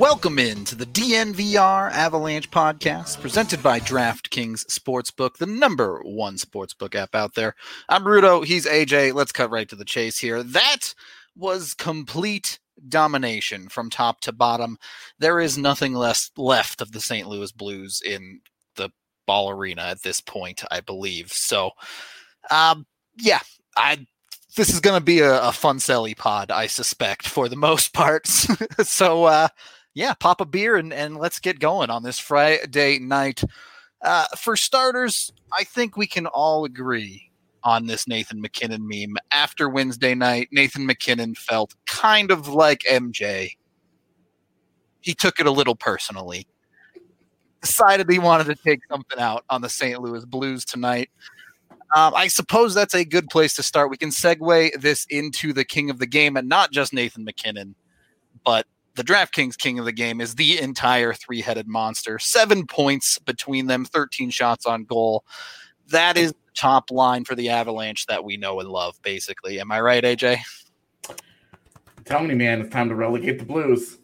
Welcome into the DNVR Avalanche podcast presented by DraftKings Sportsbook, the number one sportsbook app out there. I'm Rudo. He's AJ. Let's cut right to the chase here. That was complete domination from top to bottom. There is nothing left of the St. Louis Blues in the Ball Arena at this point, I believe. So, this is going to be a fun selly pod, I suspect, for the most part. So, pop a beer and let's get going on this Friday night. For starters, I think we can all agree on this Nathan MacKinnon meme. After Wednesday night, Nathan MacKinnon felt kind of like MJ. He took it a little personally. Decided he wanted to take something out on the St. Louis Blues tonight. I suppose that's a good place to start. We can segue this into the king of the game, and not just Nathan MacKinnon, but the DraftKings king of the game is the entire three-headed monster. 7 points between them, 13 shots on goal. That is the top line for the Avalanche that we know and love, basically. Am I right, AJ? Tell me, man, it's time to relegate the Blues.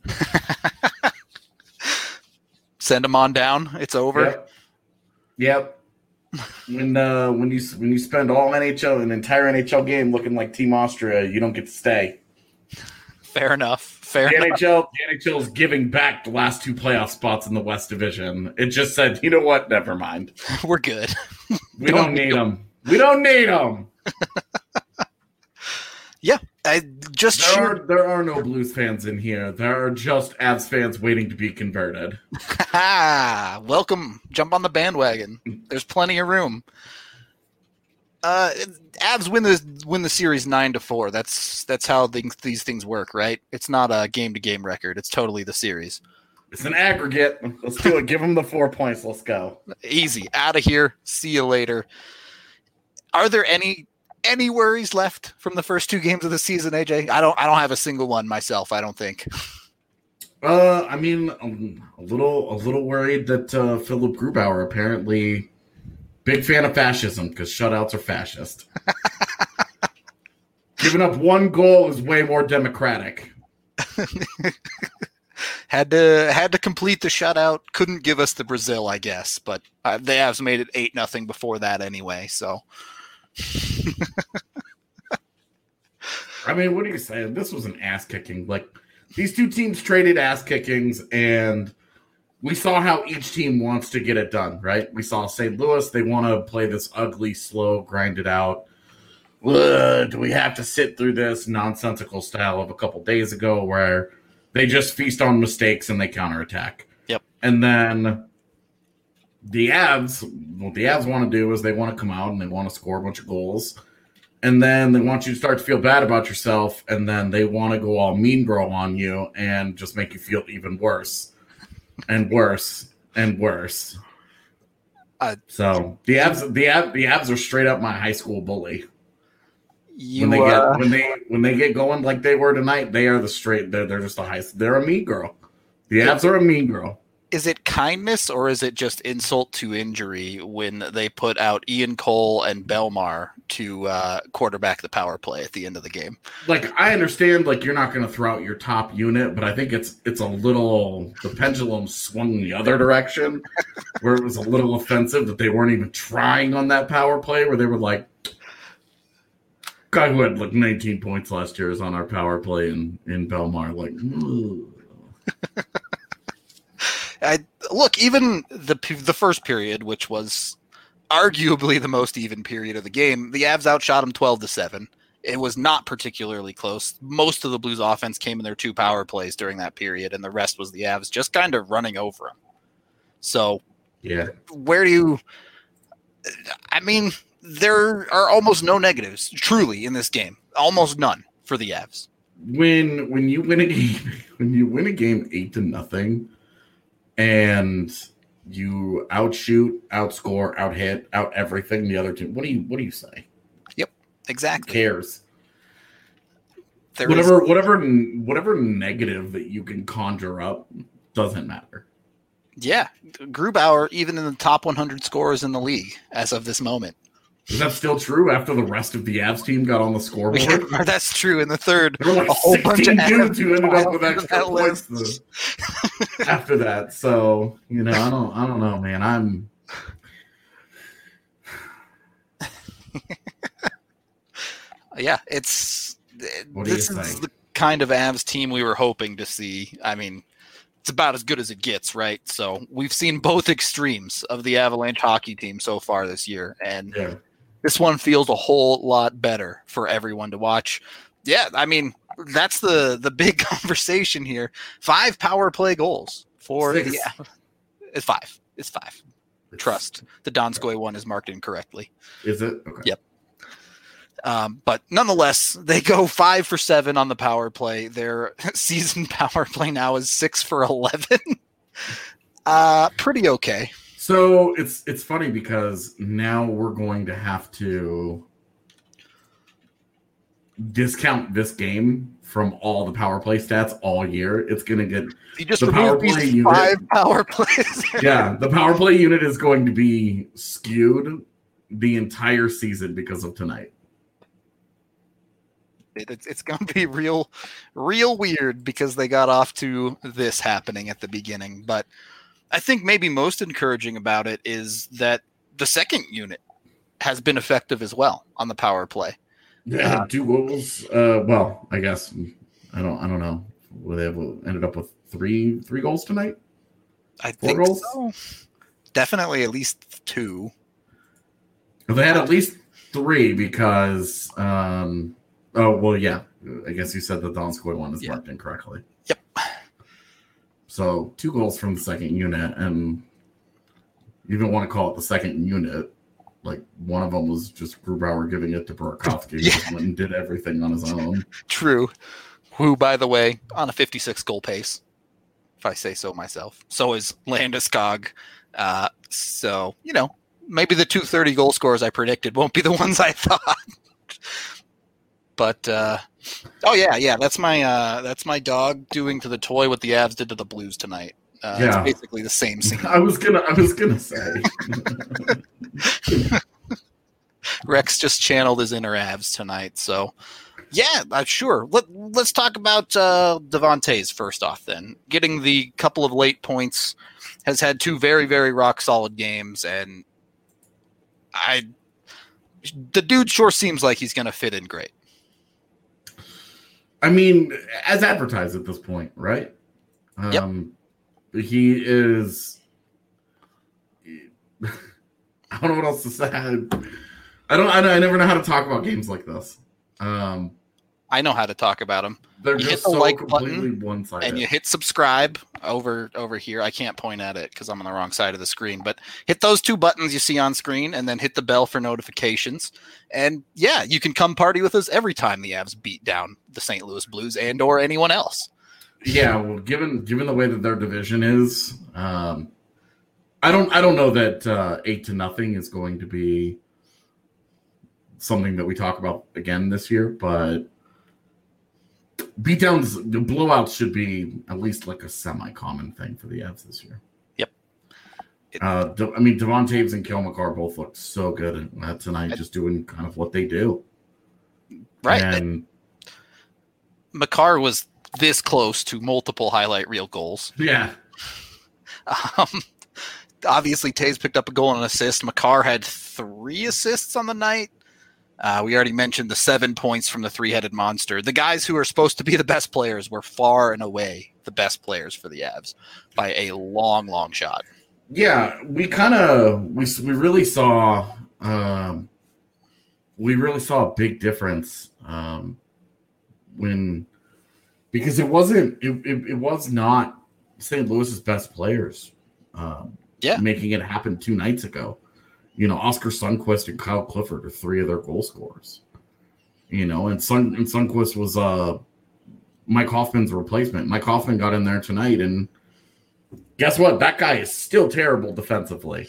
Send them on down. It's over. Yep. When you spend an entire NHL game looking like Team Austria, you don't get to stay. Fair enough. The NHL is giving back the last two playoff spots in the West Division. It just said, you know what? Never mind. We're good. We don't need them. We don't need them. Yeah, there are no Blues fans in here. There are just Avs fans waiting to be converted. Welcome. Jump on the bandwagon. There's plenty of room. Avs win the series 9-4. That's how these things work, right? It's not a game-to-game record. It's totally the series. It's an aggregate. Let's do it. Give them the 4 points. Let's go. Easy. Out of here. See you later. Are there any worries left from the first two games of the season, AJ? I don't have a single one myself, I don't think. I mean, I'm a little worried that Philip Grubauer, apparently big fan of fascism, because shutouts are fascist. Giving up one goal is way more democratic. Had to complete the shutout. Couldn't give us the Brazil, I guess, but the Avs made it 8-0 before that anyway, so... I mean, what are you saying? This was an ass kicking. Like, these two teams traded ass kickings, and we saw how each team wants to get it done, right? We saw St. Louis, they want to play this ugly, slow, grind it out. Do we have to sit through this nonsensical style of a couple days ago where they just feast on mistakes and they counterattack? Yep. And then the Avs, what the Avs want to do is they want to come out and they want to score a bunch of goals. And then they want you to start to feel bad about yourself. And then they want to go all mean girl on you and just make you feel even worse and worse and worse. So the Avs are straight up my high school bully. When they get going like they were tonight, they're just the highest. They're a mean girl. The Avs are a mean girl. Is it kindness or is it just insult to injury when they put out Ian Cole and Belmar to quarterback the power play at the end of the game? Like, I understand, like, you're not going to throw out your top unit, but I think it's a little, the pendulum swung the other direction where it was a little offensive that they weren't even trying on that power play, where they were like, guy who had like 19 points last year is on our power play in Belmar. Like, look, even the first period, which was arguably the most even period of the game, the Avs outshot them 12-7. It was not particularly close. Most of the Blues offense came in their two power plays during that period, and the rest was the Avs just kind of running over them. So, yeah, there are almost no negatives, truly, in this game. Almost none for the Avs. When you win a game 8-0, and you outshoot, outscore, outhit, out everything the other team, what do you say? Yep, exactly. Who cares? Whatever negative that you can conjure up doesn't matter. Yeah, Grubauer, even in the top 100 scorers in the league as of this moment. Is that still true after the rest of the Avs team got on the scoreboard? Yeah, that's true. In the third, there were like a whole 16 bunch of dudes who ended up with that extra points after that. So, you know, I don't know, man. Yeah, this is think? the kind of Avs team we were hoping to see. I mean, it's about as good as it gets, right? So we've seen both extremes of the Avalanche hockey team so far this year, and this one feels a whole lot better for everyone to watch. Yeah, I mean, that's the big conversation here. 5 power play goals for Six. It's 5. It's 5. Trust. The Donskoy one is marked incorrectly. Is it? Okay. Yep. But nonetheless, they go 5 for 7 on the power play. Their season power play now is 6 for 11. Pretty okay. So it's funny because now we're going to have to discount this game from all the power play stats all year. It's going to get you just the power play unit. 5 power plays. Yeah, the power play unit is going to be skewed the entire season because of tonight. It's going to be real weird because they got off to this happening at the beginning. But I think maybe most encouraging about it is that the second unit has been effective as well on the power play. Yeah, 2 goals. Well, I guess I don't know. They ended up with three goals tonight. I think goals? So. Definitely at least 2. They had at least 3 because. Oh, well, yeah. I guess you said the Donskoy one is marked incorrectly. Yep. So 2 goals from the second unit, and you don't want to call it the second unit. Like, one of them was just Grubauer giving it to Burakovsky. He just went and did everything on his own. True. Who, by the way, on a 56 goal pace, if I say so myself. So is Landeskog. So, you know, maybe the 230 goal scorers I predicted won't be the ones I thought. But that's my dog doing to the toy what the Avs did to the Blues tonight. It's basically the same scene. I was gonna say. Rex just channeled his inner Avs tonight. So yeah, sure. Let's talk about Devontae's first off. Then getting the couple of late points, has had 2 very very rock solid games, and the dude sure seems like he's going to fit in great. I mean, as advertised at this point, right? Yep. He is. I don't know what else to say. I never know how to talk about games like this. I know how to talk about them. They're you just hit the so like completely button, one-sided. and you hit subscribe over here. I can't point at it because I'm on the wrong side of the screen. But hit those 2 buttons you see on screen, and then hit the bell for notifications. And yeah, you can come party with us every time the Avs beat down the St. Louis Blues and or anyone else. Yeah, well, given the way that their division is, I don't know that 8-0 is going to be something that we talk about again this year, but beatdowns, the blowouts should be at least like a semi-common thing for the Avs this year. Yep. Devon Toews and Cale Makar both looked so good tonight, just doing kind of what they do. Right. And Makar was this close to multiple highlight reel goals. Yeah. Obviously, Toews picked up a goal and an assist. Makar had 3 assists on the night. We already mentioned the 7 points from the 3-headed monster. The guys who are supposed to be the best players were far and away the best players for the Avs by a long, long shot. Yeah, we really saw a big difference because it was not St. Louis's best players making it happen 2 nights ago. You know, Oscar Sundqvist and Kyle Clifford are 3 of their goal scorers. You know, and Sundqvist was Mike Hoffman's replacement. Mike Hoffman got in there tonight, and guess what? That guy is still terrible defensively.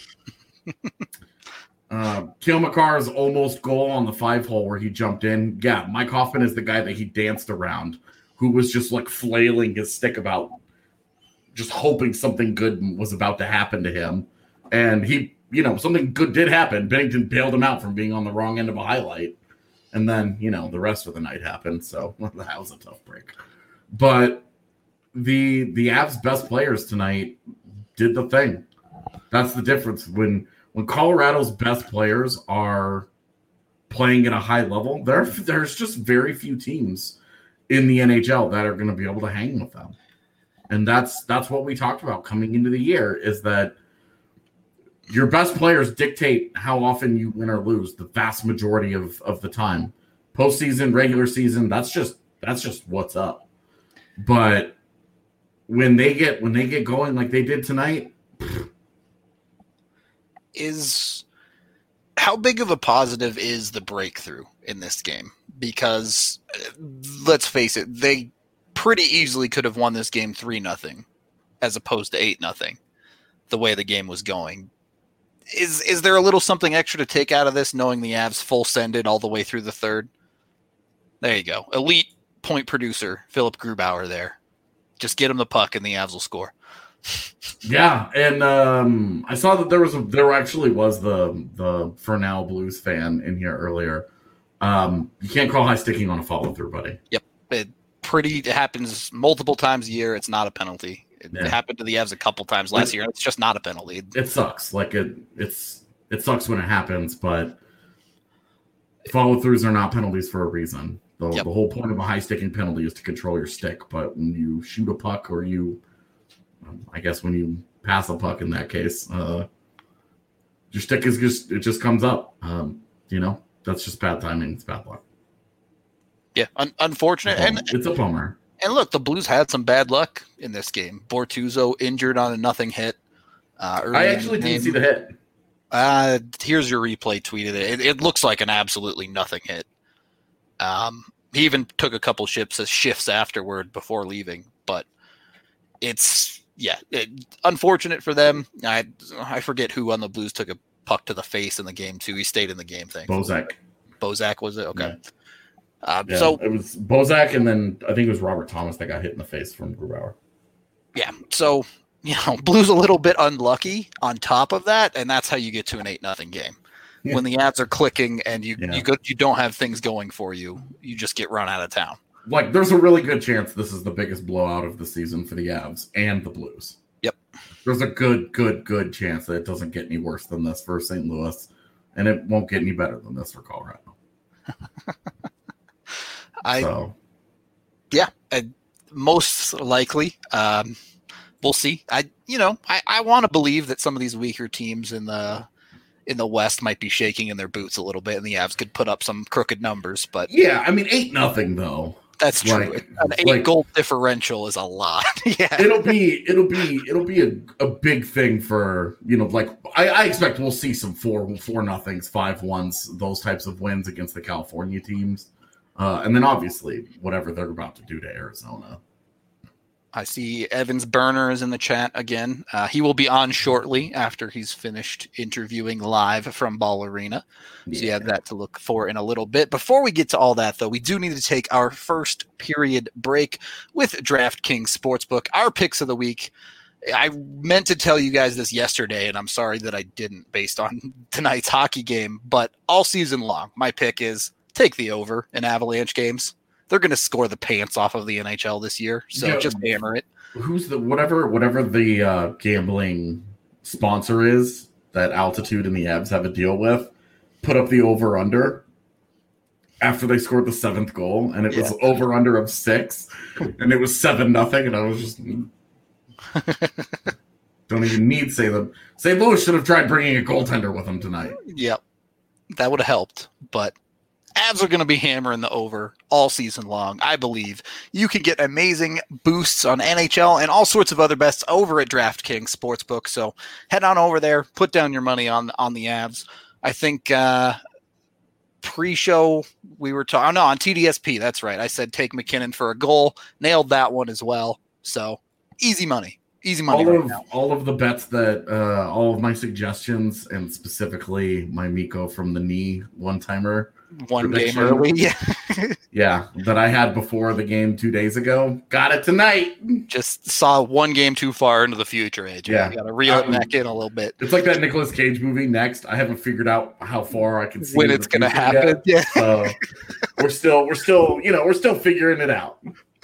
Cale Makar's almost goal on the 5-hole where he jumped in. Yeah, Mike Hoffman is the guy that he danced around, who was just like flailing his stick about, just hoping something good was about to happen to him. And he something good did happen. Bennington bailed him out from being on the wrong end of a highlight. And then, the rest of the night happened. So that was a tough break. But the Avs' best players tonight did the thing. That's the difference. When Colorado's best players are playing at a high level, there's just very few teams in the NHL that are going to be able to hang with them. And that's what we talked about coming into the year, is that your best players dictate how often you win or lose the vast majority of the time. Postseason, regular season, that's just what's up. But when they get going like they did tonight, how big of a positive is the breakthrough in this game? Because let's face it, they pretty easily could have won this game 3-0 as opposed to 8-0 the way the game was going. Is there a little something extra to take out of this, knowing the Avs full sended all the way through the third? There you go. Elite point producer, Philip Grubauer there. Just get him the puck and the Avs will score. Yeah, and I saw that there actually was the Fernell Blues fan in here earlier. You can't call high sticking on a follow through, buddy. Yep, it happens multiple times a year. It's not a penalty. It happened to the Avs a couple times last year. It's just not a penalty. It sucks. Like it sucks when it happens, but follow throughs are not penalties for a reason. The whole point of a high sticking penalty is to control your stick. But when you shoot a puck, or I guess when you pass a puck in that case, your stick it just comes up. That's just bad timing. It's bad luck. Yeah, unfortunate. And it's a bummer. And look, the Blues had some bad luck in this game. Bortuzzo injured on a nothing hit. I actually didn't see the hit. Here's your replay tweeted it. It looks like an absolutely nothing hit. He even took a couple shifts afterward before leaving. But it's unfortunate for them. I forget who on the Blues took a puck to the face in the game too. He stayed in the game. Bozak was it? Okay. Yeah. So it was Bozak, and then I think it was Robert Thomas that got hit in the face from Grubauer. Yeah. So Blues a little bit unlucky on top of that, and that's how you get to an 8-0 game. Yeah. When the ads are clicking and you don't have things going for you, you just get run out of town. Like, there's a really good chance this is the biggest blowout of the season for the Avs and the Blues. Yep. There's a good chance that it doesn't get any worse than this for St. Louis, and it won't get any better than this for Colorado. Most likely. We'll see. I want to believe that some of these weaker teams in the West might be shaking in their boots a little bit, and the Avs could put up some crooked numbers. But 8-0 though. That's true. An 8-goal differential is a lot. Yeah, it'll be a big thing for I expect we'll see some 4-0s, 5-1s, those types of wins against the California teams, and then obviously whatever they're about to do to Arizona. I see Evans Burner is in the chat again. He will be on shortly after he's finished interviewing live from Ball Arena. So you have that to look for in a little bit. Before we get to all that, though, we do need to take our first period break with DraftKings Sportsbook. Our picks of the week. I meant to tell you guys this yesterday, and I'm sorry that I didn't based on tonight's hockey game. But all season long, my pick is take the over in Avalanche games. They're going to score the pants off of the NHL this year, so just hammer it. Who's the whatever the gambling sponsor is that Altitude and the Avs have a deal with? Put up the over under after they scored the 7th goal, and it was over under of 6, and it was 7-0, and I was just don't even need to say them. St. Louis should have tried bringing a goaltender with them tonight. Yep, that would have helped, but. Avs are going to be hammering the over all season long. I believe you can get amazing boosts on NHL and all sorts of other bets over at DraftKings Sportsbook. So head on over there, put down your money on the Avs. I think pre-show we were talking on TDSP. That's right. I said take McKinnon for a goal. Nailed that one as well. So easy money. Easy money right now. All of the bets that all of my suggestions, and specifically my Miko from the knee one-timer one game early. Yeah, that I had before the game 2 days ago. Got it tonight. Just saw one game too far into the future, AJ. Yeah. You got to reel it back in a little bit. It's like that Nicolas Cage movie, Next. I haven't figured out how far I can see when it's going to happen. Yet. Yeah. We're still figuring it out.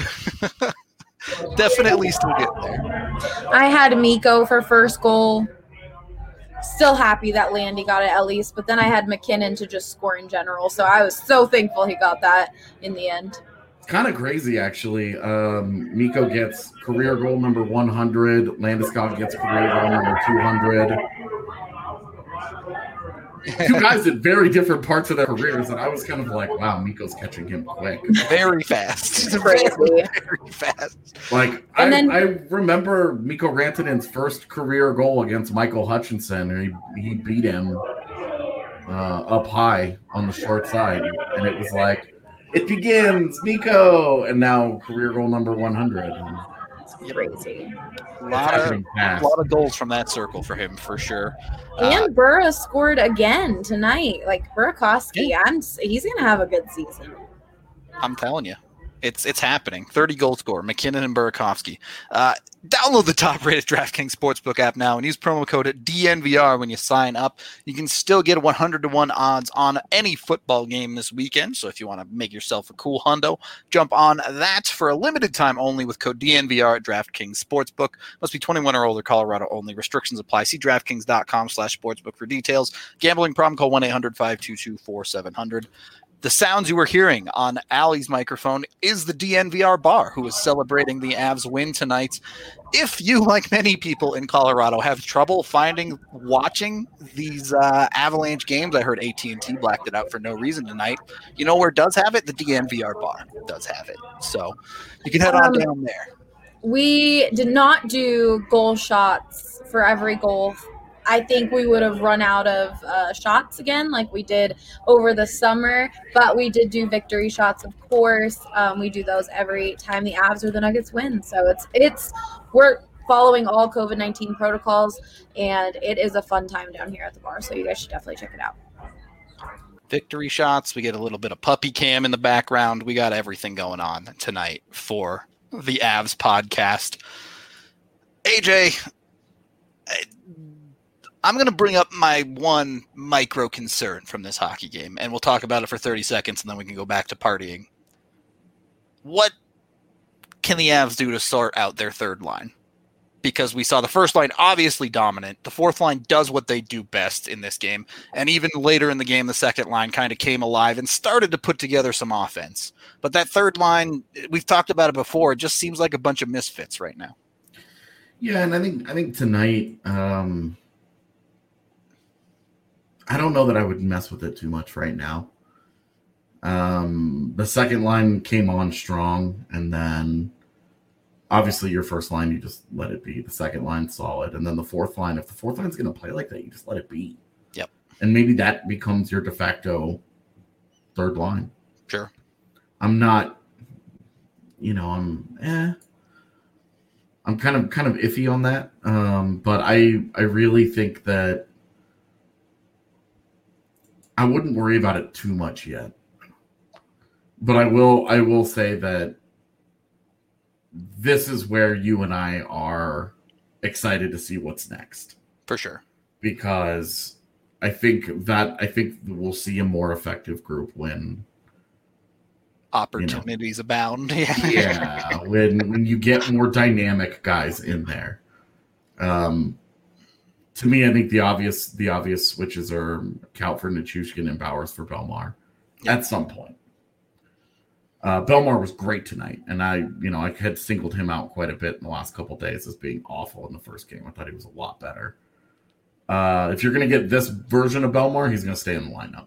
Definitely still getting there. I had Miko for first goal. Still happy that Landy got it at least, but then I had McKinnon to just score in general, so I was so thankful he got that in the end. It's kind of crazy, actually. Miko gets career goal number 100. Landeskog gets career goal number 200. Two guys at very different parts of their careers, and I was kind of like, wow, Miko's catching him quick. Very fast. Crazy. Very fast. Like, I remember Mikko Rantanen's first career goal against Michael Hutchinson, and he beat him up high on the short side, and it was like, it begins, Miko! And now career goal number 100. Crazy. A lot of goals from that circle for him, for sure. And Burra scored again tonight. Like, Burakovsky, he's going to have a good season. I'm telling you. It's happening. 30 goal scorer, McKinnon and Burakovsky. Download the top-rated DraftKings Sportsbook app now and use promo code DNVR when you sign up. You can still get 100-to-1 odds on any football game this weekend. So if you want to make yourself a cool hundo, jump on that for a limited time only with code DNVR at DraftKings Sportsbook. Must be 21 or older, Colorado only. Restrictions apply. See DraftKings.com/sportsbook for details. Gambling problem, call 1-800-522-4700. The sounds you were hearing on Allie's microphone is the DNVR bar, who is celebrating the Avs win tonight. If you, like many people in Colorado, have trouble watching these Avalanche games, I heard AT&T blacked it out for no reason tonight. You know where it does have it? The DNVR bar does have it. So you can head on down there. We did not do goal shots for every goal. I think we would have run out of shots again like we did over the summer, but we did do victory shots, of course. We do those every time the Avs or the Nuggets win. So we're following all COVID-19 protocols, and it is a fun time down here at the bar. So you guys should definitely check it out. Victory shots. We get a little bit of puppy cam in the background. We got everything going on tonight for the Avs podcast. AJ, I'm going to bring up my one micro concern from this hockey game, and we'll talk about it for 30 seconds, and then we can go back to partying. What can the Avs do to sort out their third line? Because we saw the first line obviously dominant. The fourth line does what they do best in this game. And even later in the game, the second line kind of came alive and started to put together some offense. But that third line, we've talked about it before, it just seems like a bunch of misfits right now. Yeah, and I think tonight, I don't know that I would mess with it too much right now. The second line came on strong, and then obviously your first line, you just let it be. The second line, solid. And then the fourth line, if the fourth line's going to play like that, you just let it be. Yep. And maybe that becomes your de facto third line. Sure. I'm not, I'm kind of iffy on that. But I really think that I wouldn't worry about it too much yet. But I will say that this is where you and I are excited to see what's next. For sure. Because I think we'll see a more effective group when opportunities abound. Yeah, when you get more dynamic guys in there. To me, I think the obvious switches are Count for Nichushkin and Bowers for Belmar at some point. Belmar was great tonight, and I had singled him out quite a bit in the last couple of days as being awful in the first game. I thought he was a lot better. If you're going to get this version of Belmar, he's going to stay in the lineup.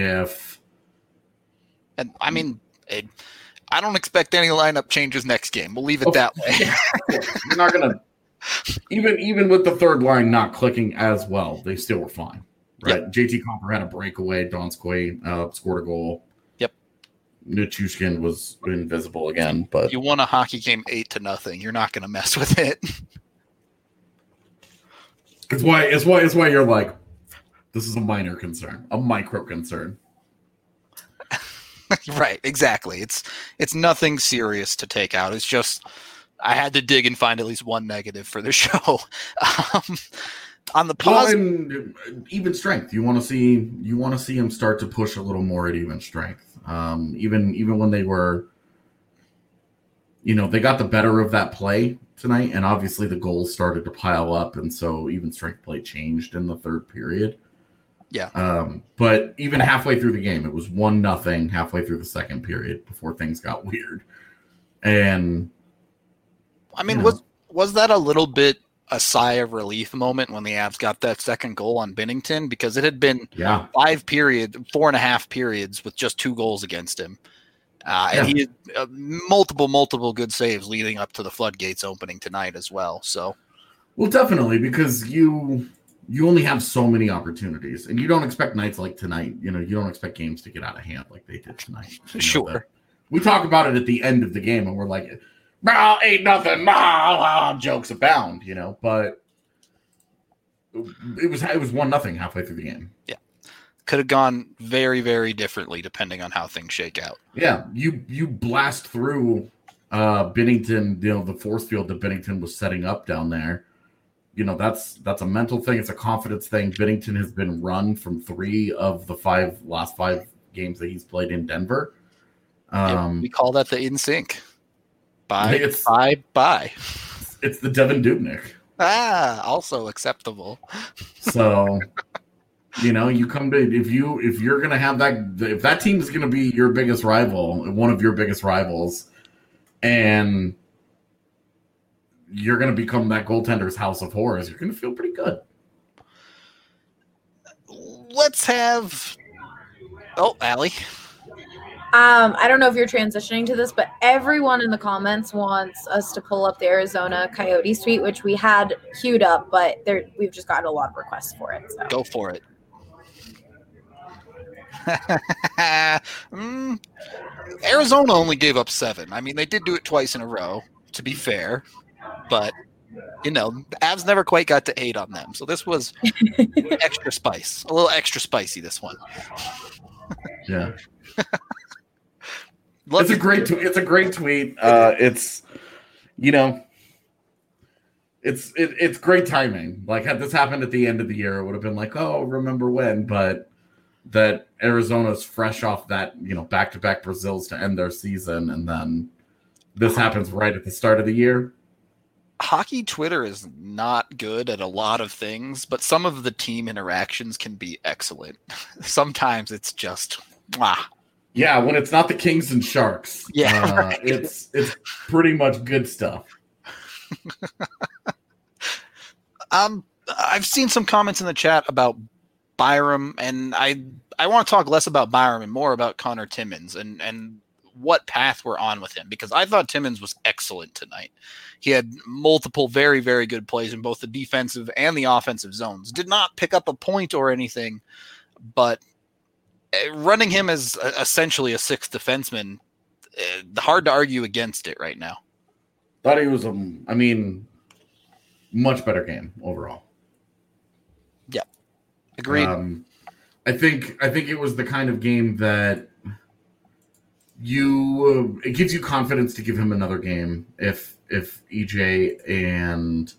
I don't expect any lineup changes next game. We'll leave it that way. You're not going to. Even with the third line not clicking as well, they still were fine, right? Yep. JT Compher had a breakaway. Donskoy scored a goal. Yep. Nichushkin was invisible again, but you won a hockey game 8-0. You're not going to mess with it. It's why you're like, this is a minor concern, a micro concern. Right, exactly. It's nothing serious to take out. It's just I had to dig and find at least one negative for the show. On the positive, and even strength, you want to see him start to push a little more at even strength. Even when they were, they got the better of that play tonight, and obviously the goals started to pile up, and so even strength play changed in the third period. Yeah. But even halfway through the game, it was 1-0 halfway through the second period before things got weird. And I mean, was that a little bit a sigh of relief moment when the Avs got that second goal on Binnington? Because it had been 4.5 periods with just 2 goals against him. And he had multiple good saves leading up to the floodgates opening tonight as well. So, well, definitely, because you only have so many opportunities, and you don't expect nights like tonight. You don't expect games to get out of hand like they did tonight. Sure. We talk about it at the end of the game, and we're like, 8-0, jokes abound, but it was 1-0 halfway through the game. Yeah. Could have gone very, very differently depending on how things shake out. Yeah. You blast through Binnington, the force field that Binnington was setting up down there. That's a mental thing. It's a confidence thing. Binnington has been run from 3 of the last 5 games that he's played in Denver. We call that the in sync. Bye. It's the Devin Dubnyk. Also acceptable. So, you come to if you're gonna have if that team is gonna be your biggest rival, one of your biggest rivals, and you're going to become that goaltender's house of horrors, you're going to feel pretty good. Let's have... Oh, Allie. I don't know if you're transitioning to this, but everyone in the comments wants us to pull up the Arizona Coyote tweet, which we had queued up, but we've just gotten a lot of requests for it. So. Go for it. Arizona only gave up 7. I mean, they did do it twice in a row, to be fair. But, the Avs never quite got to 8 on them. So this was extra spice. A little extra spicy, this one. Yeah. It's a great tweet. It's great timing. Like, had this happened at the end of the year, it would have been like, oh, remember when? But that Arizona's fresh off that, back-to-back Brazils to end their season, and then this happens right at the start of the year. Hockey Twitter is not good at a lot of things, but some of the team interactions can be excellent. Sometimes it's just, Yeah, when it's not the Kings and Sharks. Yeah, right. It's pretty much good stuff. I've seen some comments in the chat about Byram, and I want to talk less about Byram and more about Connor Timmins and what path we're on with him, because I thought Timmins was excellent tonight. He had multiple very, very good plays in both the defensive and the offensive zones. Did not pick up a point or anything, but running him as essentially a 6th defenseman, hard to argue against it right now. Thought he was much better game overall. Yep. Agreed. I think it was the kind of game that it gives you confidence to give him another game if EJ and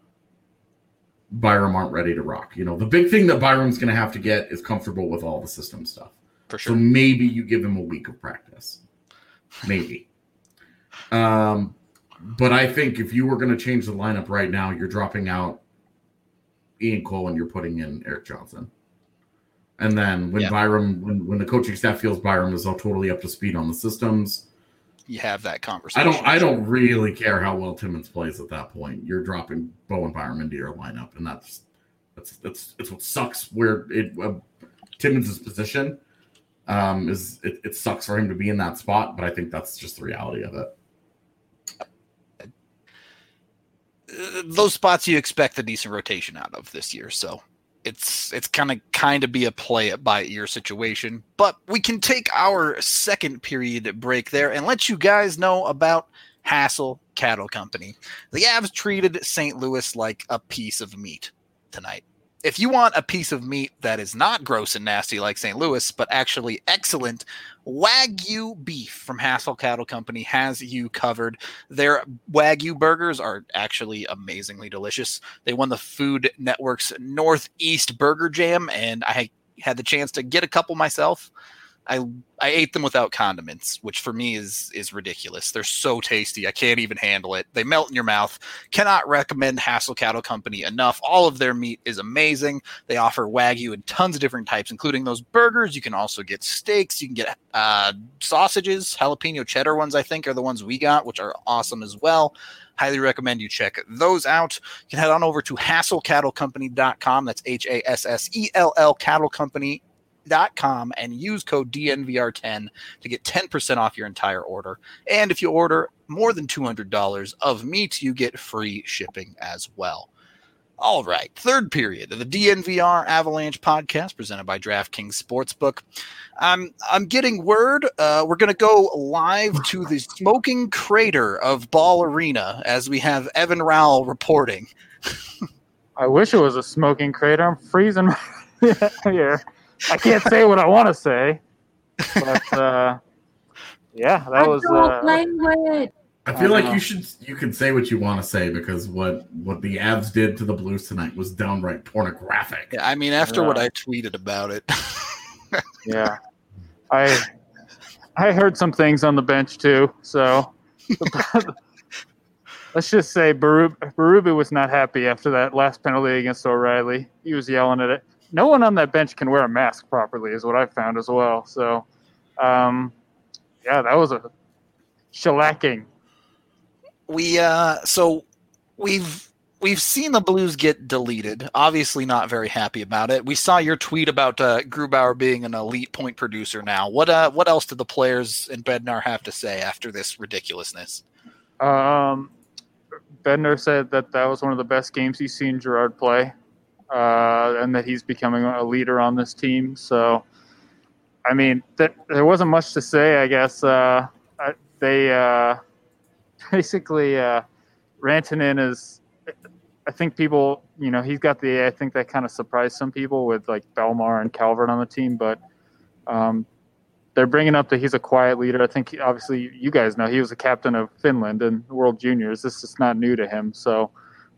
Byram aren't ready to rock. The big thing that Byram's going to have to get is comfortable with all the system stuff. For sure. So maybe you give him a week of practice. Maybe. But I think if you were going to change the lineup right now, you're dropping out Ian Cole and you're putting in Erik Johnson. And then when when the coaching staff feels Byram is all totally up to speed on the systems, you have that conversation. I don't really care how well Timmins plays at that point. You're dropping Bowen Byram into your lineup, and that's what sucks. Where Timmins' position is, it sucks for him to be in that spot, but I think that's just the reality of it. Those spots you expect a decent rotation out of this year, so it's kind of be a play it by ear situation. But we can take our second period break there and let you guys know about Hassel Cattle Company. The Avs treated St. Louis like a piece of meat. tonight. If you want a piece of meat that is not gross and nasty like St. Louis, but actually excellent, Wagyu beef from Hassel Cattle Company has you covered. Their Wagyu burgers are actually amazingly delicious. They won the Food Network's Northeast Burger Jam, and I had the chance to get a couple myself. I ate them without condiments, which for me is ridiculous. They're so tasty. I can't even handle it. They melt in your mouth. Cannot recommend Hassel Cattle Company enough. All of their meat is amazing. They offer Wagyu in tons of different types, including those burgers. You can also get steaks. You can get sausages. Jalapeno cheddar ones, I think, are the ones we got, which are awesome as well. Highly recommend you check those out. You can head on over to HasselCattleCompany.com. That's HASSELL Cattle Company. And use code DNVR10 to get 10% off your entire order. And if you order more than $200 of meat, you get free shipping as well. All right, third period of the DNVR Avalanche podcast presented by DraftKings Sportsbook. I'm getting word we're going to go live to the smoking crater of Ball Arena as we have Evan Rowell reporting. I wish it was a smoking crater. I'm freezing here. I can't say what I want to say, but yeah, that was. Language. I feel like you could say what you want to say because what the Avs did to the Blues tonight was downright pornographic. Yeah, I mean, after what I tweeted about it. Yeah, I heard some things on the bench too. So let's just say Berube was not happy after that last penalty against O'Reilly. He was yelling at it. No one on that bench can wear a mask properly is what I found as well. So, yeah, that was a shellacking. We've seen the Blues get deleted. Obviously not very happy about it. We saw your tweet about Grubauer being an elite point producer now. What else did the players and Bednar have to say after this ridiculousness? Bednar said that was one of the best games he's seen Gerard play. And that he's becoming a leader on this team. So, I mean, there wasn't much to say, I guess. They basically Rantanen is, I think people, he's got I think that kind of surprised some people with like Belmar and Calvert on the team, but they're bringing up that he's a quiet leader. I think obviously you guys know he was a captain of Finland and World Juniors. This is not new to him. So,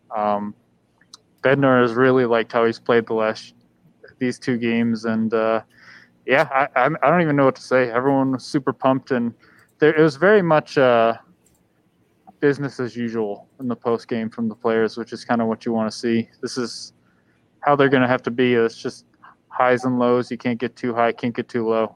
Bednar has really liked how he's played these two games, and yeah, I don't even know what to say. Everyone was super pumped, and it was very much business as usual in the post game from the players, which is kind of what you want to see. This is how they're going to have to be. It's just highs and lows. You can't get too high, can't get too low.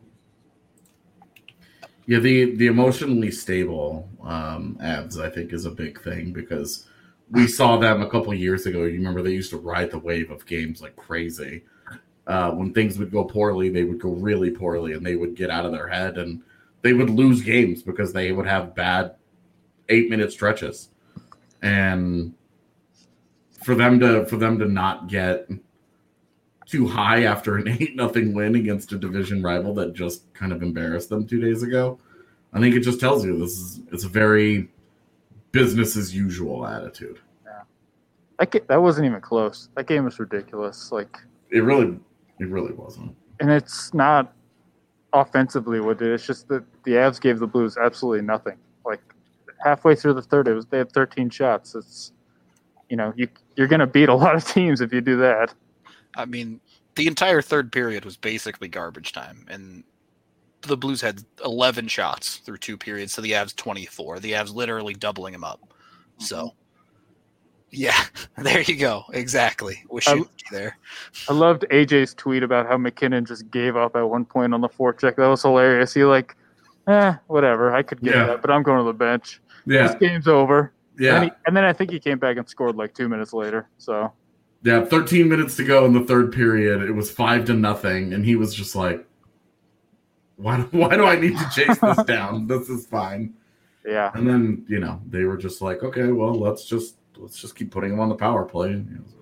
Yeah, the emotionally stable Avs, I think, is a big thing because we saw them a couple of years ago. You remember they used to ride the wave of games like crazy. When things would go poorly, they would go really poorly, and they would get out of their head, and they would lose games because they would have bad 8-minute stretches. And for them to not get too high after an 8-0 win against a division rival that just kind of embarrassed them 2 days ago, I think it just tells you it's a very business as usual attitude. Yeah, that wasn't even close. That game was ridiculous. Like it really wasn't. And it's not offensively what it is. It's just that the Avs gave the Blues absolutely nothing. Like halfway through the third, they had 13 shots. It's you're going to beat a lot of teams if you do that. I mean, the entire third period was basically garbage time, and the Blues had 11 shots through 2 periods, so the Avs 24. The Avs literally doubling them up. So, yeah, there you go. Exactly. Wish you there. I loved AJ's tweet about how McKinnon just gave up at one point on the forecheck. That was hilarious. He whatever. I could get that, but I'm going to the bench. Yeah. This game's over. Yeah. And then I think he came back and scored like 2 minutes later. So. Yeah, 13 minutes to go in the third period. It was 5-0, and he was just like, Why do I need to chase this down? This is fine. Yeah. And then, they were just like, okay, well, let's just keep putting him on the power play.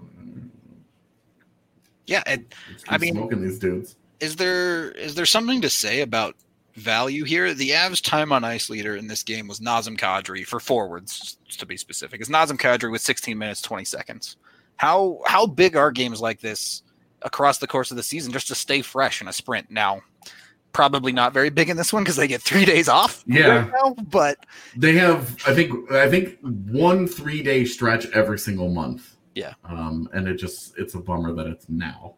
Yeah, and I mean, smoking these dudes. Is there something to say about value here? The Avs' time on ice leader in this game was Nazem Kadri for forwards, to be specific. It's Nazem Kadri with 16 minutes 20 seconds. How big are games like this across the course of the season just to stay fresh in a sprint? Now, probably not very big in this one because they get 3 days off. Yeah, right now, but they have. I think 1 3-day stretch every single month. Yeah, and it's a bummer that it's now.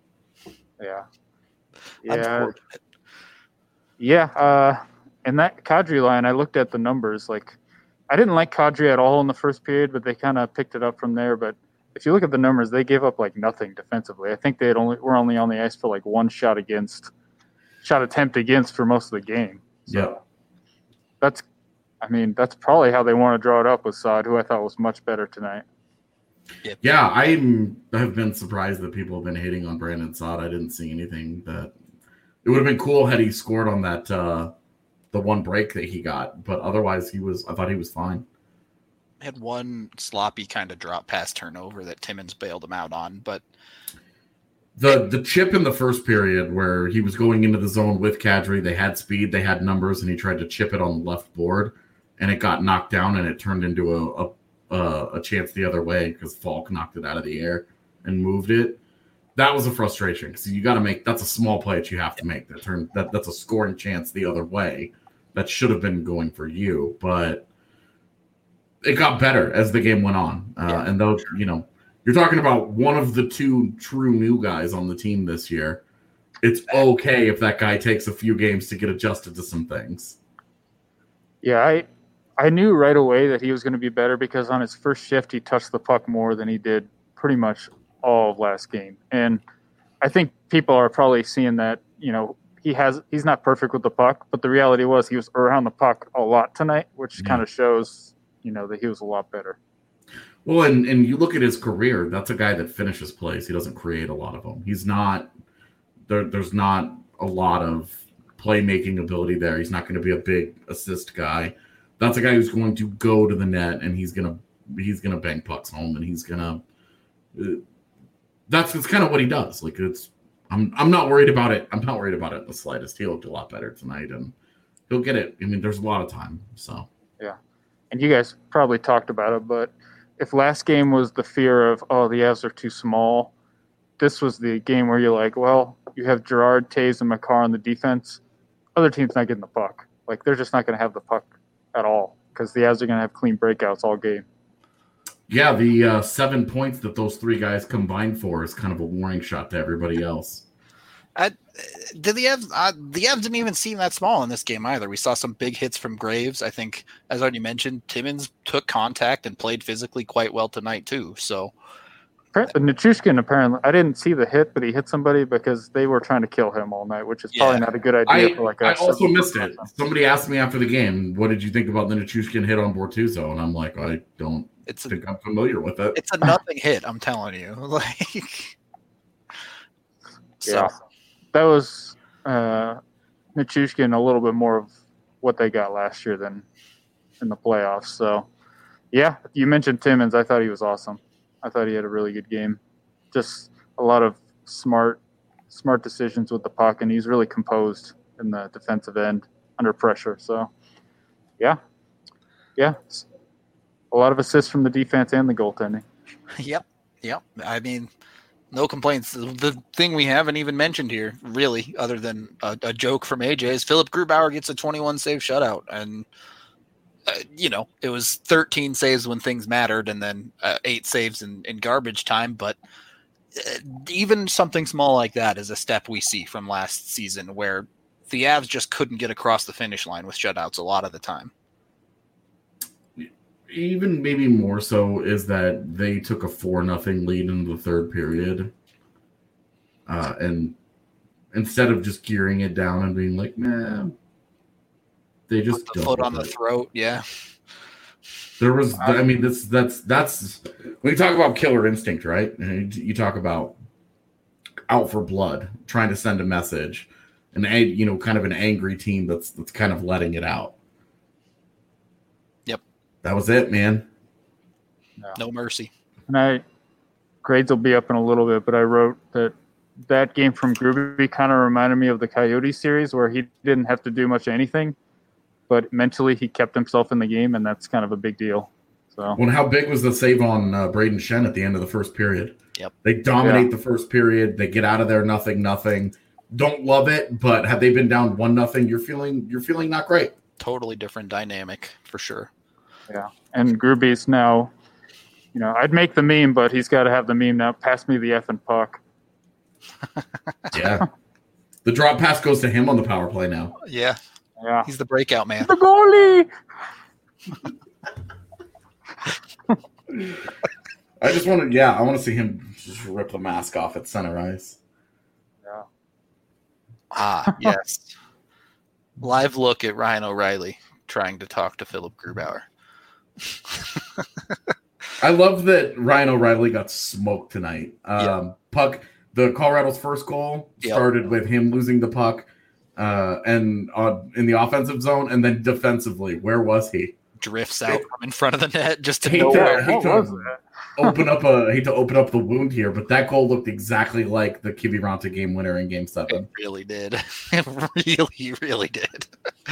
Yeah. In that Kadri line, I looked at the numbers. Like, I didn't like Kadri at all in the first period, but they kind of picked it up from there. But if you look at the numbers, they gave up like nothing defensively. I think were only on the ice for like one shot attempt against for most of the game. So that's probably how they want to draw it up with Saad, who I thought was much better tonight. Yeah, I have been surprised that people have been hating on Brandon Saad. I didn't see anything that it would have been cool had he scored on that the one break that he got, but otherwise I thought he was fine. Had one sloppy kind of drop pass turnover that Timmins bailed him out on, but the chip in the first period where he was going into the zone with Kadri, they had speed, they had numbers, and he tried to chip it on the left board, and it got knocked down, and it turned into a chance the other way because Falk knocked it out of the air and moved it. That was a frustration because you got to that's a small play that you have to make. That's a scoring chance the other way. That should have been going for you, but it got better as the game went on. And though, you're talking about one of the 2 true new guys on the team this year. It's okay if that guy takes a few games to get adjusted to some things. Yeah, I knew right away that he was going to be better because on his first shift, he touched the puck more than he did pretty much all of last game. And I think people are probably seeing that, he's not perfect with the puck, but the reality was he was around the puck a lot tonight, which kind of shows, that he was a lot better. Well, and you look at his career, that's a guy that finishes plays. He doesn't create a lot of them. He's not there's not a lot of playmaking ability there. He's not going to be a big assist guy. That's a guy who's going to go to the net and he's gonna bang pucks home, and he's gonna. That's kind of what he does. Like I'm not worried about it. I'm not worried about it in the slightest. He looked a lot better tonight, and he'll get it. I mean, there's a lot of time. So yeah, and you guys probably talked about it, but if last game was the fear of the Avs are too small, this was the game where you're like, well, you have Gerard, Taves, and Makar on the defense. Other team's not getting the puck. Like they're just not going to have the puck at all because the Avs are going to have clean breakouts all game. Yeah, the 7 points that those 3 guys combined for is kind of a warning shot to everybody else. The Avs didn't even seem that small in this game either. We saw some big hits from Graves. I think, as already mentioned, Timmins took contact and played physically quite well tonight too. So, Nichushkin apparently, I didn't see the hit, but he hit somebody because they were trying to kill him all night, which is probably not a good idea. I also missed it. Somebody asked me after the game, "What did you think about the Nichushkin hit on Bortuzzo?" And I'm like, I don't think I'm familiar with it. It's a nothing hit. I'm telling you, like. Yeah, that was Nichushkin a little bit more of what they got last year than in the playoffs. So, yeah, you mentioned Timmins. I thought he was awesome. I thought he had a really good game. Just a lot of smart decisions with the puck, and he's really composed in the defensive end under pressure. So, yeah, a lot of assists from the defense and the goaltending. Yep. I mean, no complaints. The thing we haven't even mentioned here, really, other than a joke from AJ, is Philip Grubauer gets a 21-save shutout. And, it was 13 saves when things mattered and then 8 saves in garbage time. But even something small like that is a step we see from last season where the Avs just couldn't get across the finish line with shutouts a lot of the time. Even maybe more so is that they took a 4-0 lead in the third period. And instead of just gearing it down and being like, nah, they just put the foot on the throat. Yeah. There was, I mean, that's when you talk about killer instinct, right? And you talk about out for blood, trying to send a message, and kind of an angry team that's kind of letting it out. Yep, that was it, man. No mercy. And grades will be up in a little bit, but I wrote that game from Gruby kind of reminded me of the Coyote series where he didn't have to do much of anything, but mentally he kept himself in the game, and that's kind of a big deal. So, well, how big was the save on Braden Shen at the end of the first period? Yep. They dominate the first period. They get out of there nothing. Don't love it, but had they been down 1-0, you're feeling not great. Totally different dynamic for sure. Yeah, and Gruby's now, I'd make the meme, but he's got to have the meme now. Pass me the effing puck. Yeah. The drop pass goes to him on the power play now. Yeah. Yeah. He's the breakout man. The goalie. I want to see him just rip the mask off at center ice. Yeah. Ah, yes. Live look at Ryan O'Reilly trying to talk to Philip Grubauer. I love that Ryan O'Reilly got smoked tonight. Puck, the Colorado's first goal started with him losing the puck and in the offensive zone, and then defensively, where was he? Drifts out from in front of the net just to hate know to open up the wound here, but that goal looked exactly like the Kiviranta game winner in Game 7. It really did. It really, really did.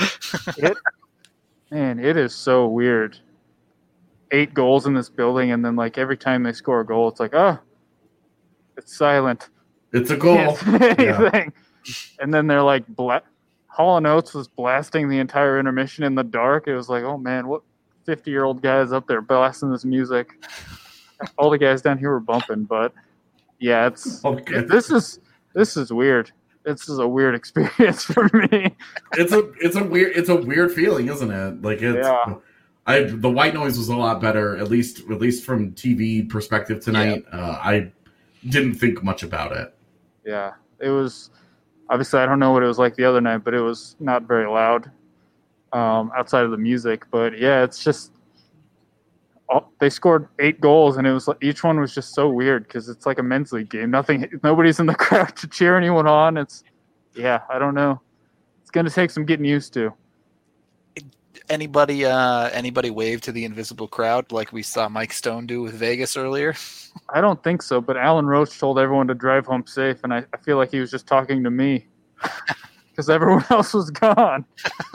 It is so weird. 8 goals in this building, and then like every time they score a goal, it's like, it's silent. It's a goal. Anything. And then they're like, Hall & Oates was blasting the entire intermission in the dark. It was like, oh man, what 50-year-old guys up there blasting this music? All the guys down here were bumping, but yeah, this is weird. This is a weird experience for me. It's a weird feeling, isn't it? Like the white noise was a lot better, at least from TV perspective tonight. Yeah. I didn't think much about it. Yeah, it was. Obviously, I don't know what it was like the other night, but it was not very loud outside of the music. But yeah, it's just they scored 8 goals, and it was each one was just so weird because it's like a men's league game. Nobody's in the crowd to cheer anyone on. I don't know. It's going to take some getting used to. Anybody wave to the invisible crowd like we saw Mike Stone do with Vegas earlier? I don't think so, but Alan Roach told everyone to drive home safe, and I feel like he was just talking to me because everyone else was gone.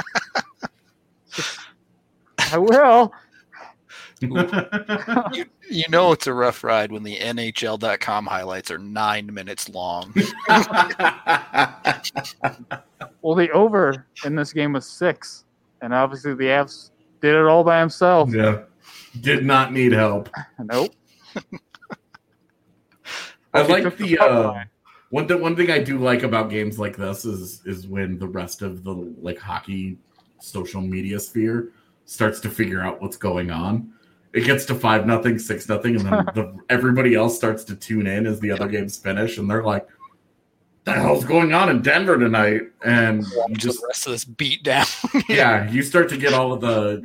I will. You know it's a rough ride when the NHL.com highlights are 9 minutes long. Well, the over in this game was 6. And obviously the Avs did it all by himself. Yeah. Did not need help. Nope. I like the one thing I do like about games like this is when the rest of the hockey social media sphere starts to figure out what's going on. It gets to 5-0, 6-0, and then everybody else starts to tune in as the other games finish, and they're like, the hell's going on in Denver tonight? And just the rest of this beat down. Yeah, you start to get all of the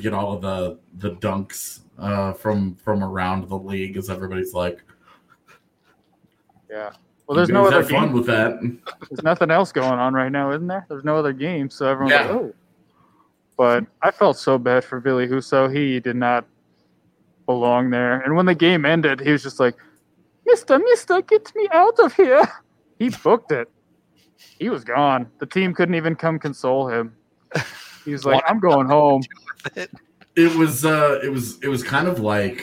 dunks from around the league as everybody's like, yeah. Well, there's no other fun with that. There's nothing else going on right now, isn't there? There's no other game, so everyone's like, oh. But I felt so bad for Billy Husso. He did not belong there. And when the game ended, he was just like, Mister, get me out of here. He booked it. He was gone. The team couldn't even come console him. He was like, I'm going home. It was kind of like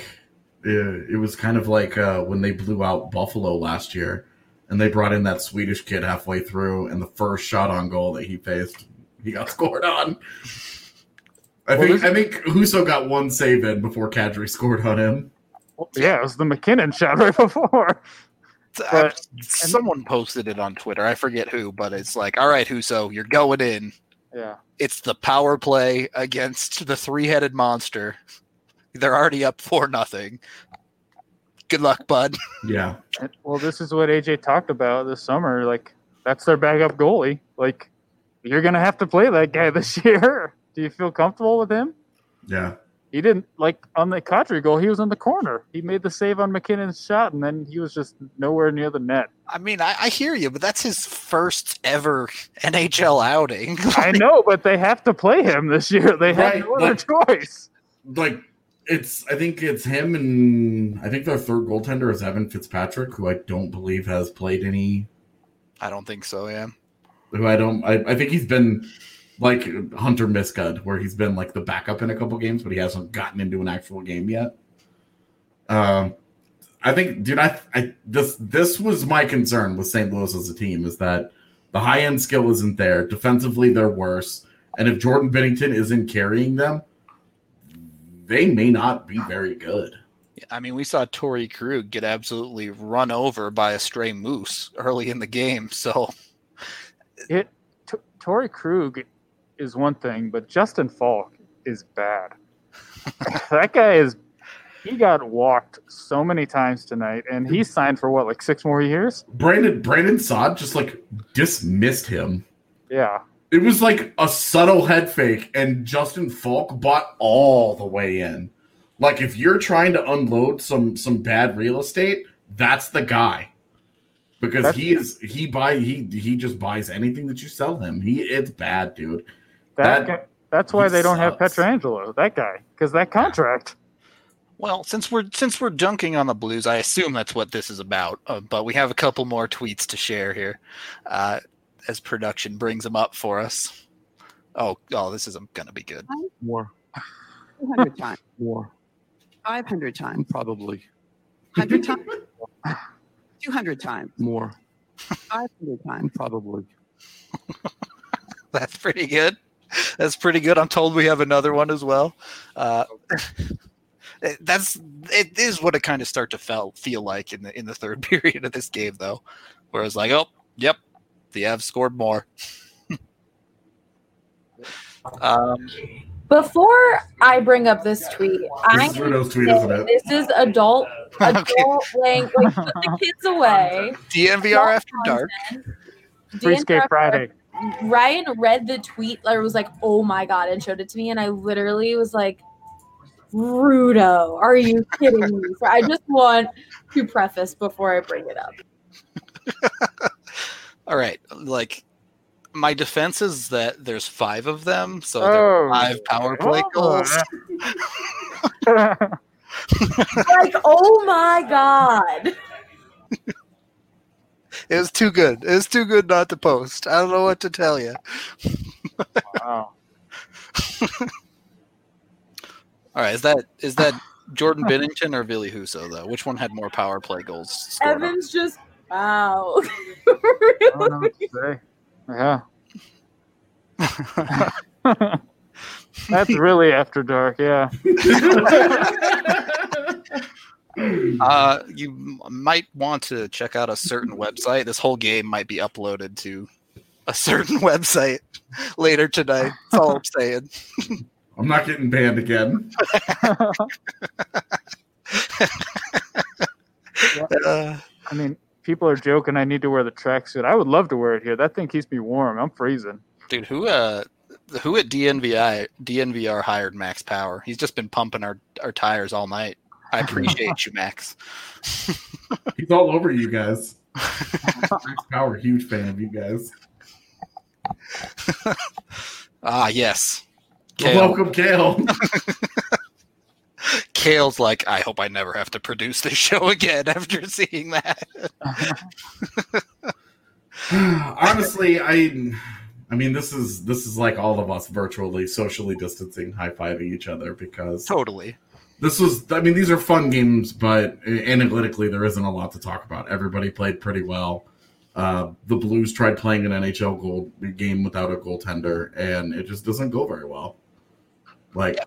when they blew out Buffalo last year and they brought in that Swedish kid halfway through, and the first shot on goal that he faced, he got scored on. I think Husso got one save in before Kadri scored on him. Well, yeah, it was the McKinnon shot right before. Someone posted it on Twitter. I forget who, but it's like, all right, Husso, you're going in. Yeah. It's the power play against the 3-headed monster. They're already up 4-0. Good luck, bud. Yeah. Well, this is what AJ talked about this summer. Like, that's their backup goalie. Like, you're going to have to play that guy this year. Do you feel comfortable with him? Yeah. He didn't, on the Kadri goal, he was in the corner. He made the save on McKinnon's shot, and then he was just nowhere near the net. I mean, I hear you, but that's his first ever NHL outing. I know, but they have to play him this year. They have no other choice. I think it's him, and I think their third goaltender is Evan Fitzpatrick, who I don't believe has played any. I don't think so, yeah. I think he's been like Hunter Miskud, where he's been like the backup in a couple games, but he hasn't gotten into an actual game yet. I think, dude, this was my concern with St. Louis as a team, is that the high end skill isn't there. Defensively, they're worse. And if Jordan Binnington isn't carrying them, they may not be very good. I mean, we saw Torrey Krug get absolutely run over by a stray moose early in the game. So, Torrey Krug is one thing, but Justin Falk is bad. That guy he got walked so many times tonight, and he signed for what, like 6 more years? Brandon Saad just like dismissed him. Yeah. It was like a subtle head fake, and Justin Falk bought all the way in. Like, if you're trying to unload some bad real estate, that's the guy. Because he just buys anything that you sell him. It's bad, dude. That's why they don't have Pietrangelo, that guy, because that contract. Well, since we're dunking on the Blues, I assume that's what this is about. But we have a couple more tweets to share here, as production brings them up for us. Oh, this isn't gonna be good. More. 200 times. More. 500 times. Probably. 100 times. 200 times. More. 500 times. Probably. That's pretty good. That's pretty good. I'm told we have another one as well. It is what it kind of start to feel like in the third period of this game, though, where it's like, oh, yep, the Avs scored more. Before I bring up this tweet, This is Rudo's tweet, isn't it? This is adult language. Put the kids away. DNVR after dark. Free Skate Friday. Ryan read the tweet, or was like, "Oh my god," and showed it to me, and I literally was like, "Rudo, are you kidding me?" So I just want to preface before I bring it up. All right, like, my defense is that there's 5 of them, so there are 5 power play goals. Like, oh my god. It was too good. It was too good not to post. I don't know what to tell you. Wow. All right, is that Jordan Binnington or Ville Husso, though? Which one had more power play goals scored on? Evan's just, wow. I don't know what to say. Yeah. That's really after dark, yeah. You might want to check out a certain website. This whole game might be uploaded to a certain website later tonight. That's all I'm saying. I'm not getting banned again. I mean, people are joking I need to wear the tracksuit. I would love to wear it here. That thing keeps me warm. I'm freezing. Dude, who at DNVR hired Max Power? He's just been pumping our tires all night. I appreciate you, Max. He's all over you guys. Max Power, huge fan of you guys. Yes. Welcome, Kale. Kale's like, I hope I never have to produce this show again after seeing that. Honestly, I mean, this is like all of us virtually, socially distancing, high-fiving each other, because Totally. These are fun games, but analytically, there isn't a lot to talk about. Everybody played pretty well. The Blues tried playing an NHL game without a goaltender, and it just doesn't go very well. Like,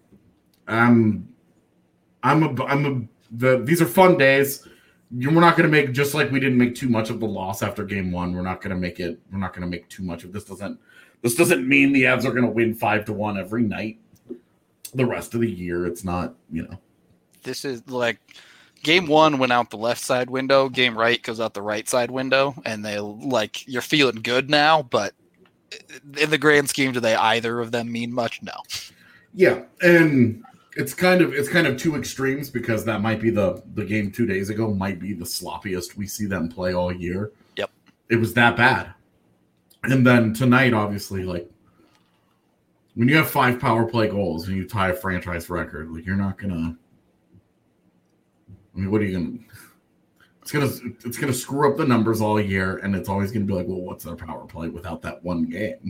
these are fun days. We're not going to make, just like we didn't make too much of the loss after game 1. We're not going to make too much of this. This doesn't mean the Avs are going to win 5-1 every night. The rest of the year, it's not, This is like game 1 went out the left side window. Game right goes out the right side window, and you're feeling good now. But in the grand scheme, do they either of them mean much? No. Yeah, and it's kind of two extremes, because that might be the game 2 days ago might be the sloppiest we see them play all year. Yep, it was that bad, and then tonight, obviously, like, when you have 5 power play goals and you tie a franchise record, like, you're not gonna. I mean, what are you gonna? It's gonna screw up the numbers all year, and it's always gonna be like, well, what's their power play without that one game?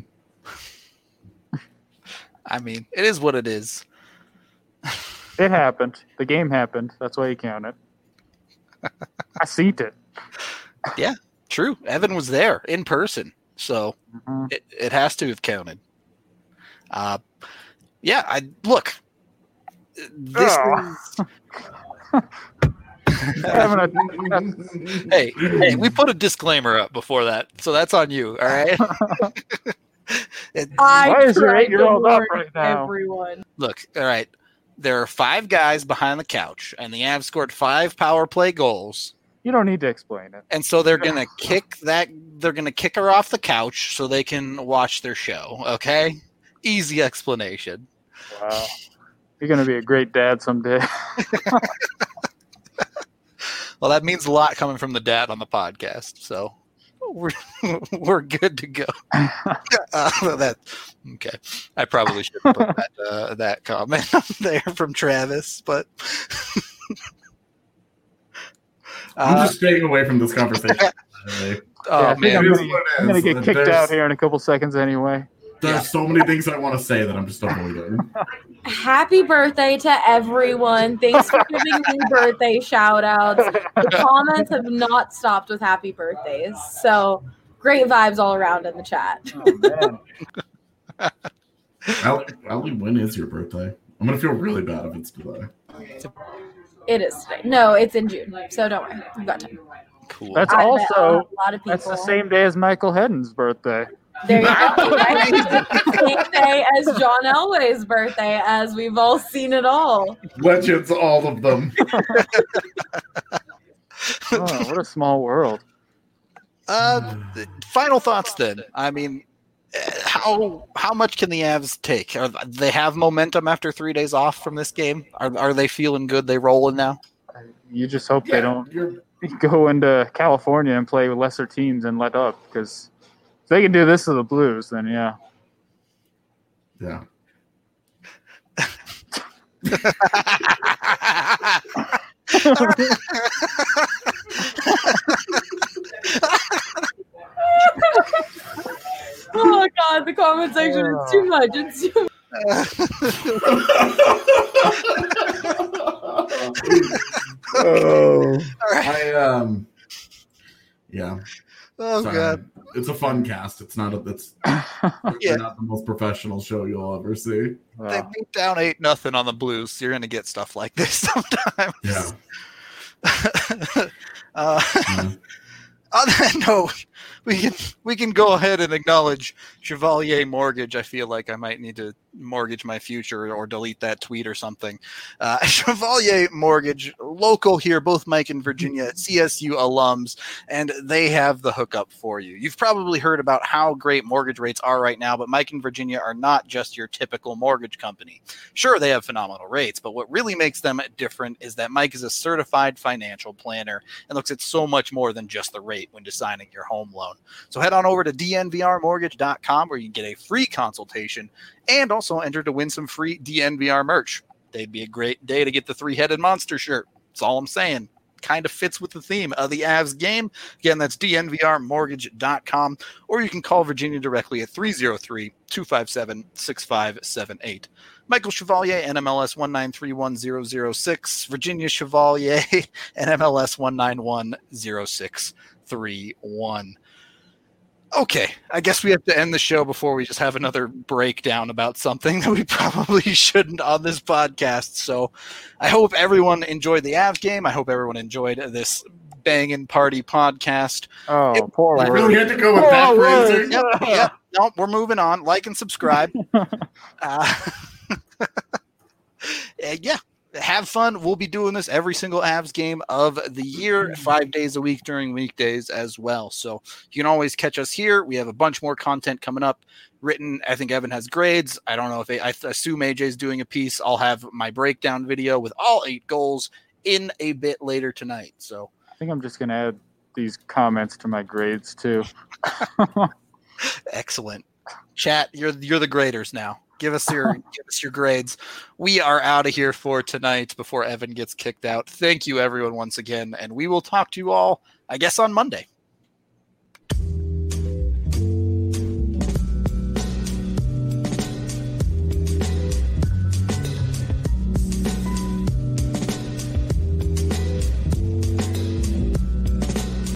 I mean, it is what it is. It happened. The game happened. That's why you count it. I seen it. True. Evan was there in person, so Mhm. it has to have counted. I look. This Oh. is. Having a- Hey, we put a disclaimer up before that, so that's on you. All right. Why is your tried to 8-year-old up warn right now? Everyone. Look, all right. There are 5 guys behind the couch, and the Avs scored 5 power play goals. You don't need to explain it. And so they're gonna kick that. They're gonna kick her off the couch so they can watch their show. Okay, easy explanation. Wow. You're going to be a great dad someday. Well, that means a lot coming from the dad on the podcast. So we're good to go. That okay. I probably should have put that comment up there from Travis, but I'm just staying away from this conversation. oh I think man, I'm It is gonna- what it I'm going is. to get kicked There's- out here in a couple seconds anyway. There's so many things I want to say that I'm just avoiding. Happy birthday to everyone. Thanks for giving me birthday shout outs. The comments have not stopped with happy birthdays. So great vibes all around in the chat. Oh, man. Allie, when is your birthday? I'm gonna feel really bad if it's today. It is today. No, it's in June. So don't worry. You've got time. cool. That's I bet also a lot of people. that's the same day as Michael Hedden's birthday. There you go. Right? Same day as John Elway's birthday, as we've all seen it all. Legends, all of them. Oh, what a small world. Final thoughts then. I mean, how much can the Avs take? They have momentum after 3 days off from this game? Are they feeling good? They rolling now? You just hope they don't You're, go into California and play with lesser teams and let up, because if they can do this to the Blues, then yeah. yeah. Oh God, the comment section is too much. It's too Oh, All right. Yeah. Oh Sorry. god. It's a fun cast. It's not Yeah. not the most professional show you'll ever see. They beat down 8-0 on the Blues. You're gonna get stuff like this sometimes. Yeah. On that note, we can go ahead and acknowledge Chevalier Mortgage. I feel like I might need to mortgage my future or delete that tweet or something. Chevalier Mortgage, local here, both Mike and Virginia, CSU alums, and they have the hookup for you. You've probably heard about how great mortgage rates are right now, but Mike and Virginia are not just your typical mortgage company. Sure, they have phenomenal rates, but what really makes them different is that Mike is a certified financial planner and looks at so much more than just the rate when deciding your home loan. So head on over to dnvrmortgage.com where you can get a free consultation and also enter to win some free DNVR merch. They'd be a great day to get the 3-headed monster shirt. That's all I'm saying. Kind of fits with the theme of the Avs game. Again, that's dnvrmortgage.com, or you can call Virginia directly at 303-257-6578. Michael Chevalier, NMLS 1931006. Virginia Chevalier, NMLS 1910631. Okay, I guess we have to end the show before we just have another breakdown about something that we probably shouldn't on this podcast. So I hope everyone enjoyed the Avs game. I hope everyone enjoyed this banging party podcast. Oh, poor I word. really had to go with that Oh, word. phrasing. Yep. No, we're moving on. Like and subscribe. Yeah. Have fun. We'll be doing this every single Avs game of the year, 5 days a week during weekdays as well. So you can always catch us here. We have a bunch more content coming up written. I think Evan has grades. I don't know if I assume AJ's doing a piece. I'll have my breakdown video with all 8 goals in a bit later tonight. So I think I'm just going to add these comments to my grades too. excellent. Chat, you're the graders now. Give us your grades. We are out of here for tonight before Evan gets kicked out. Thank you everyone once again, and we will talk to you all, I guess, on Monday.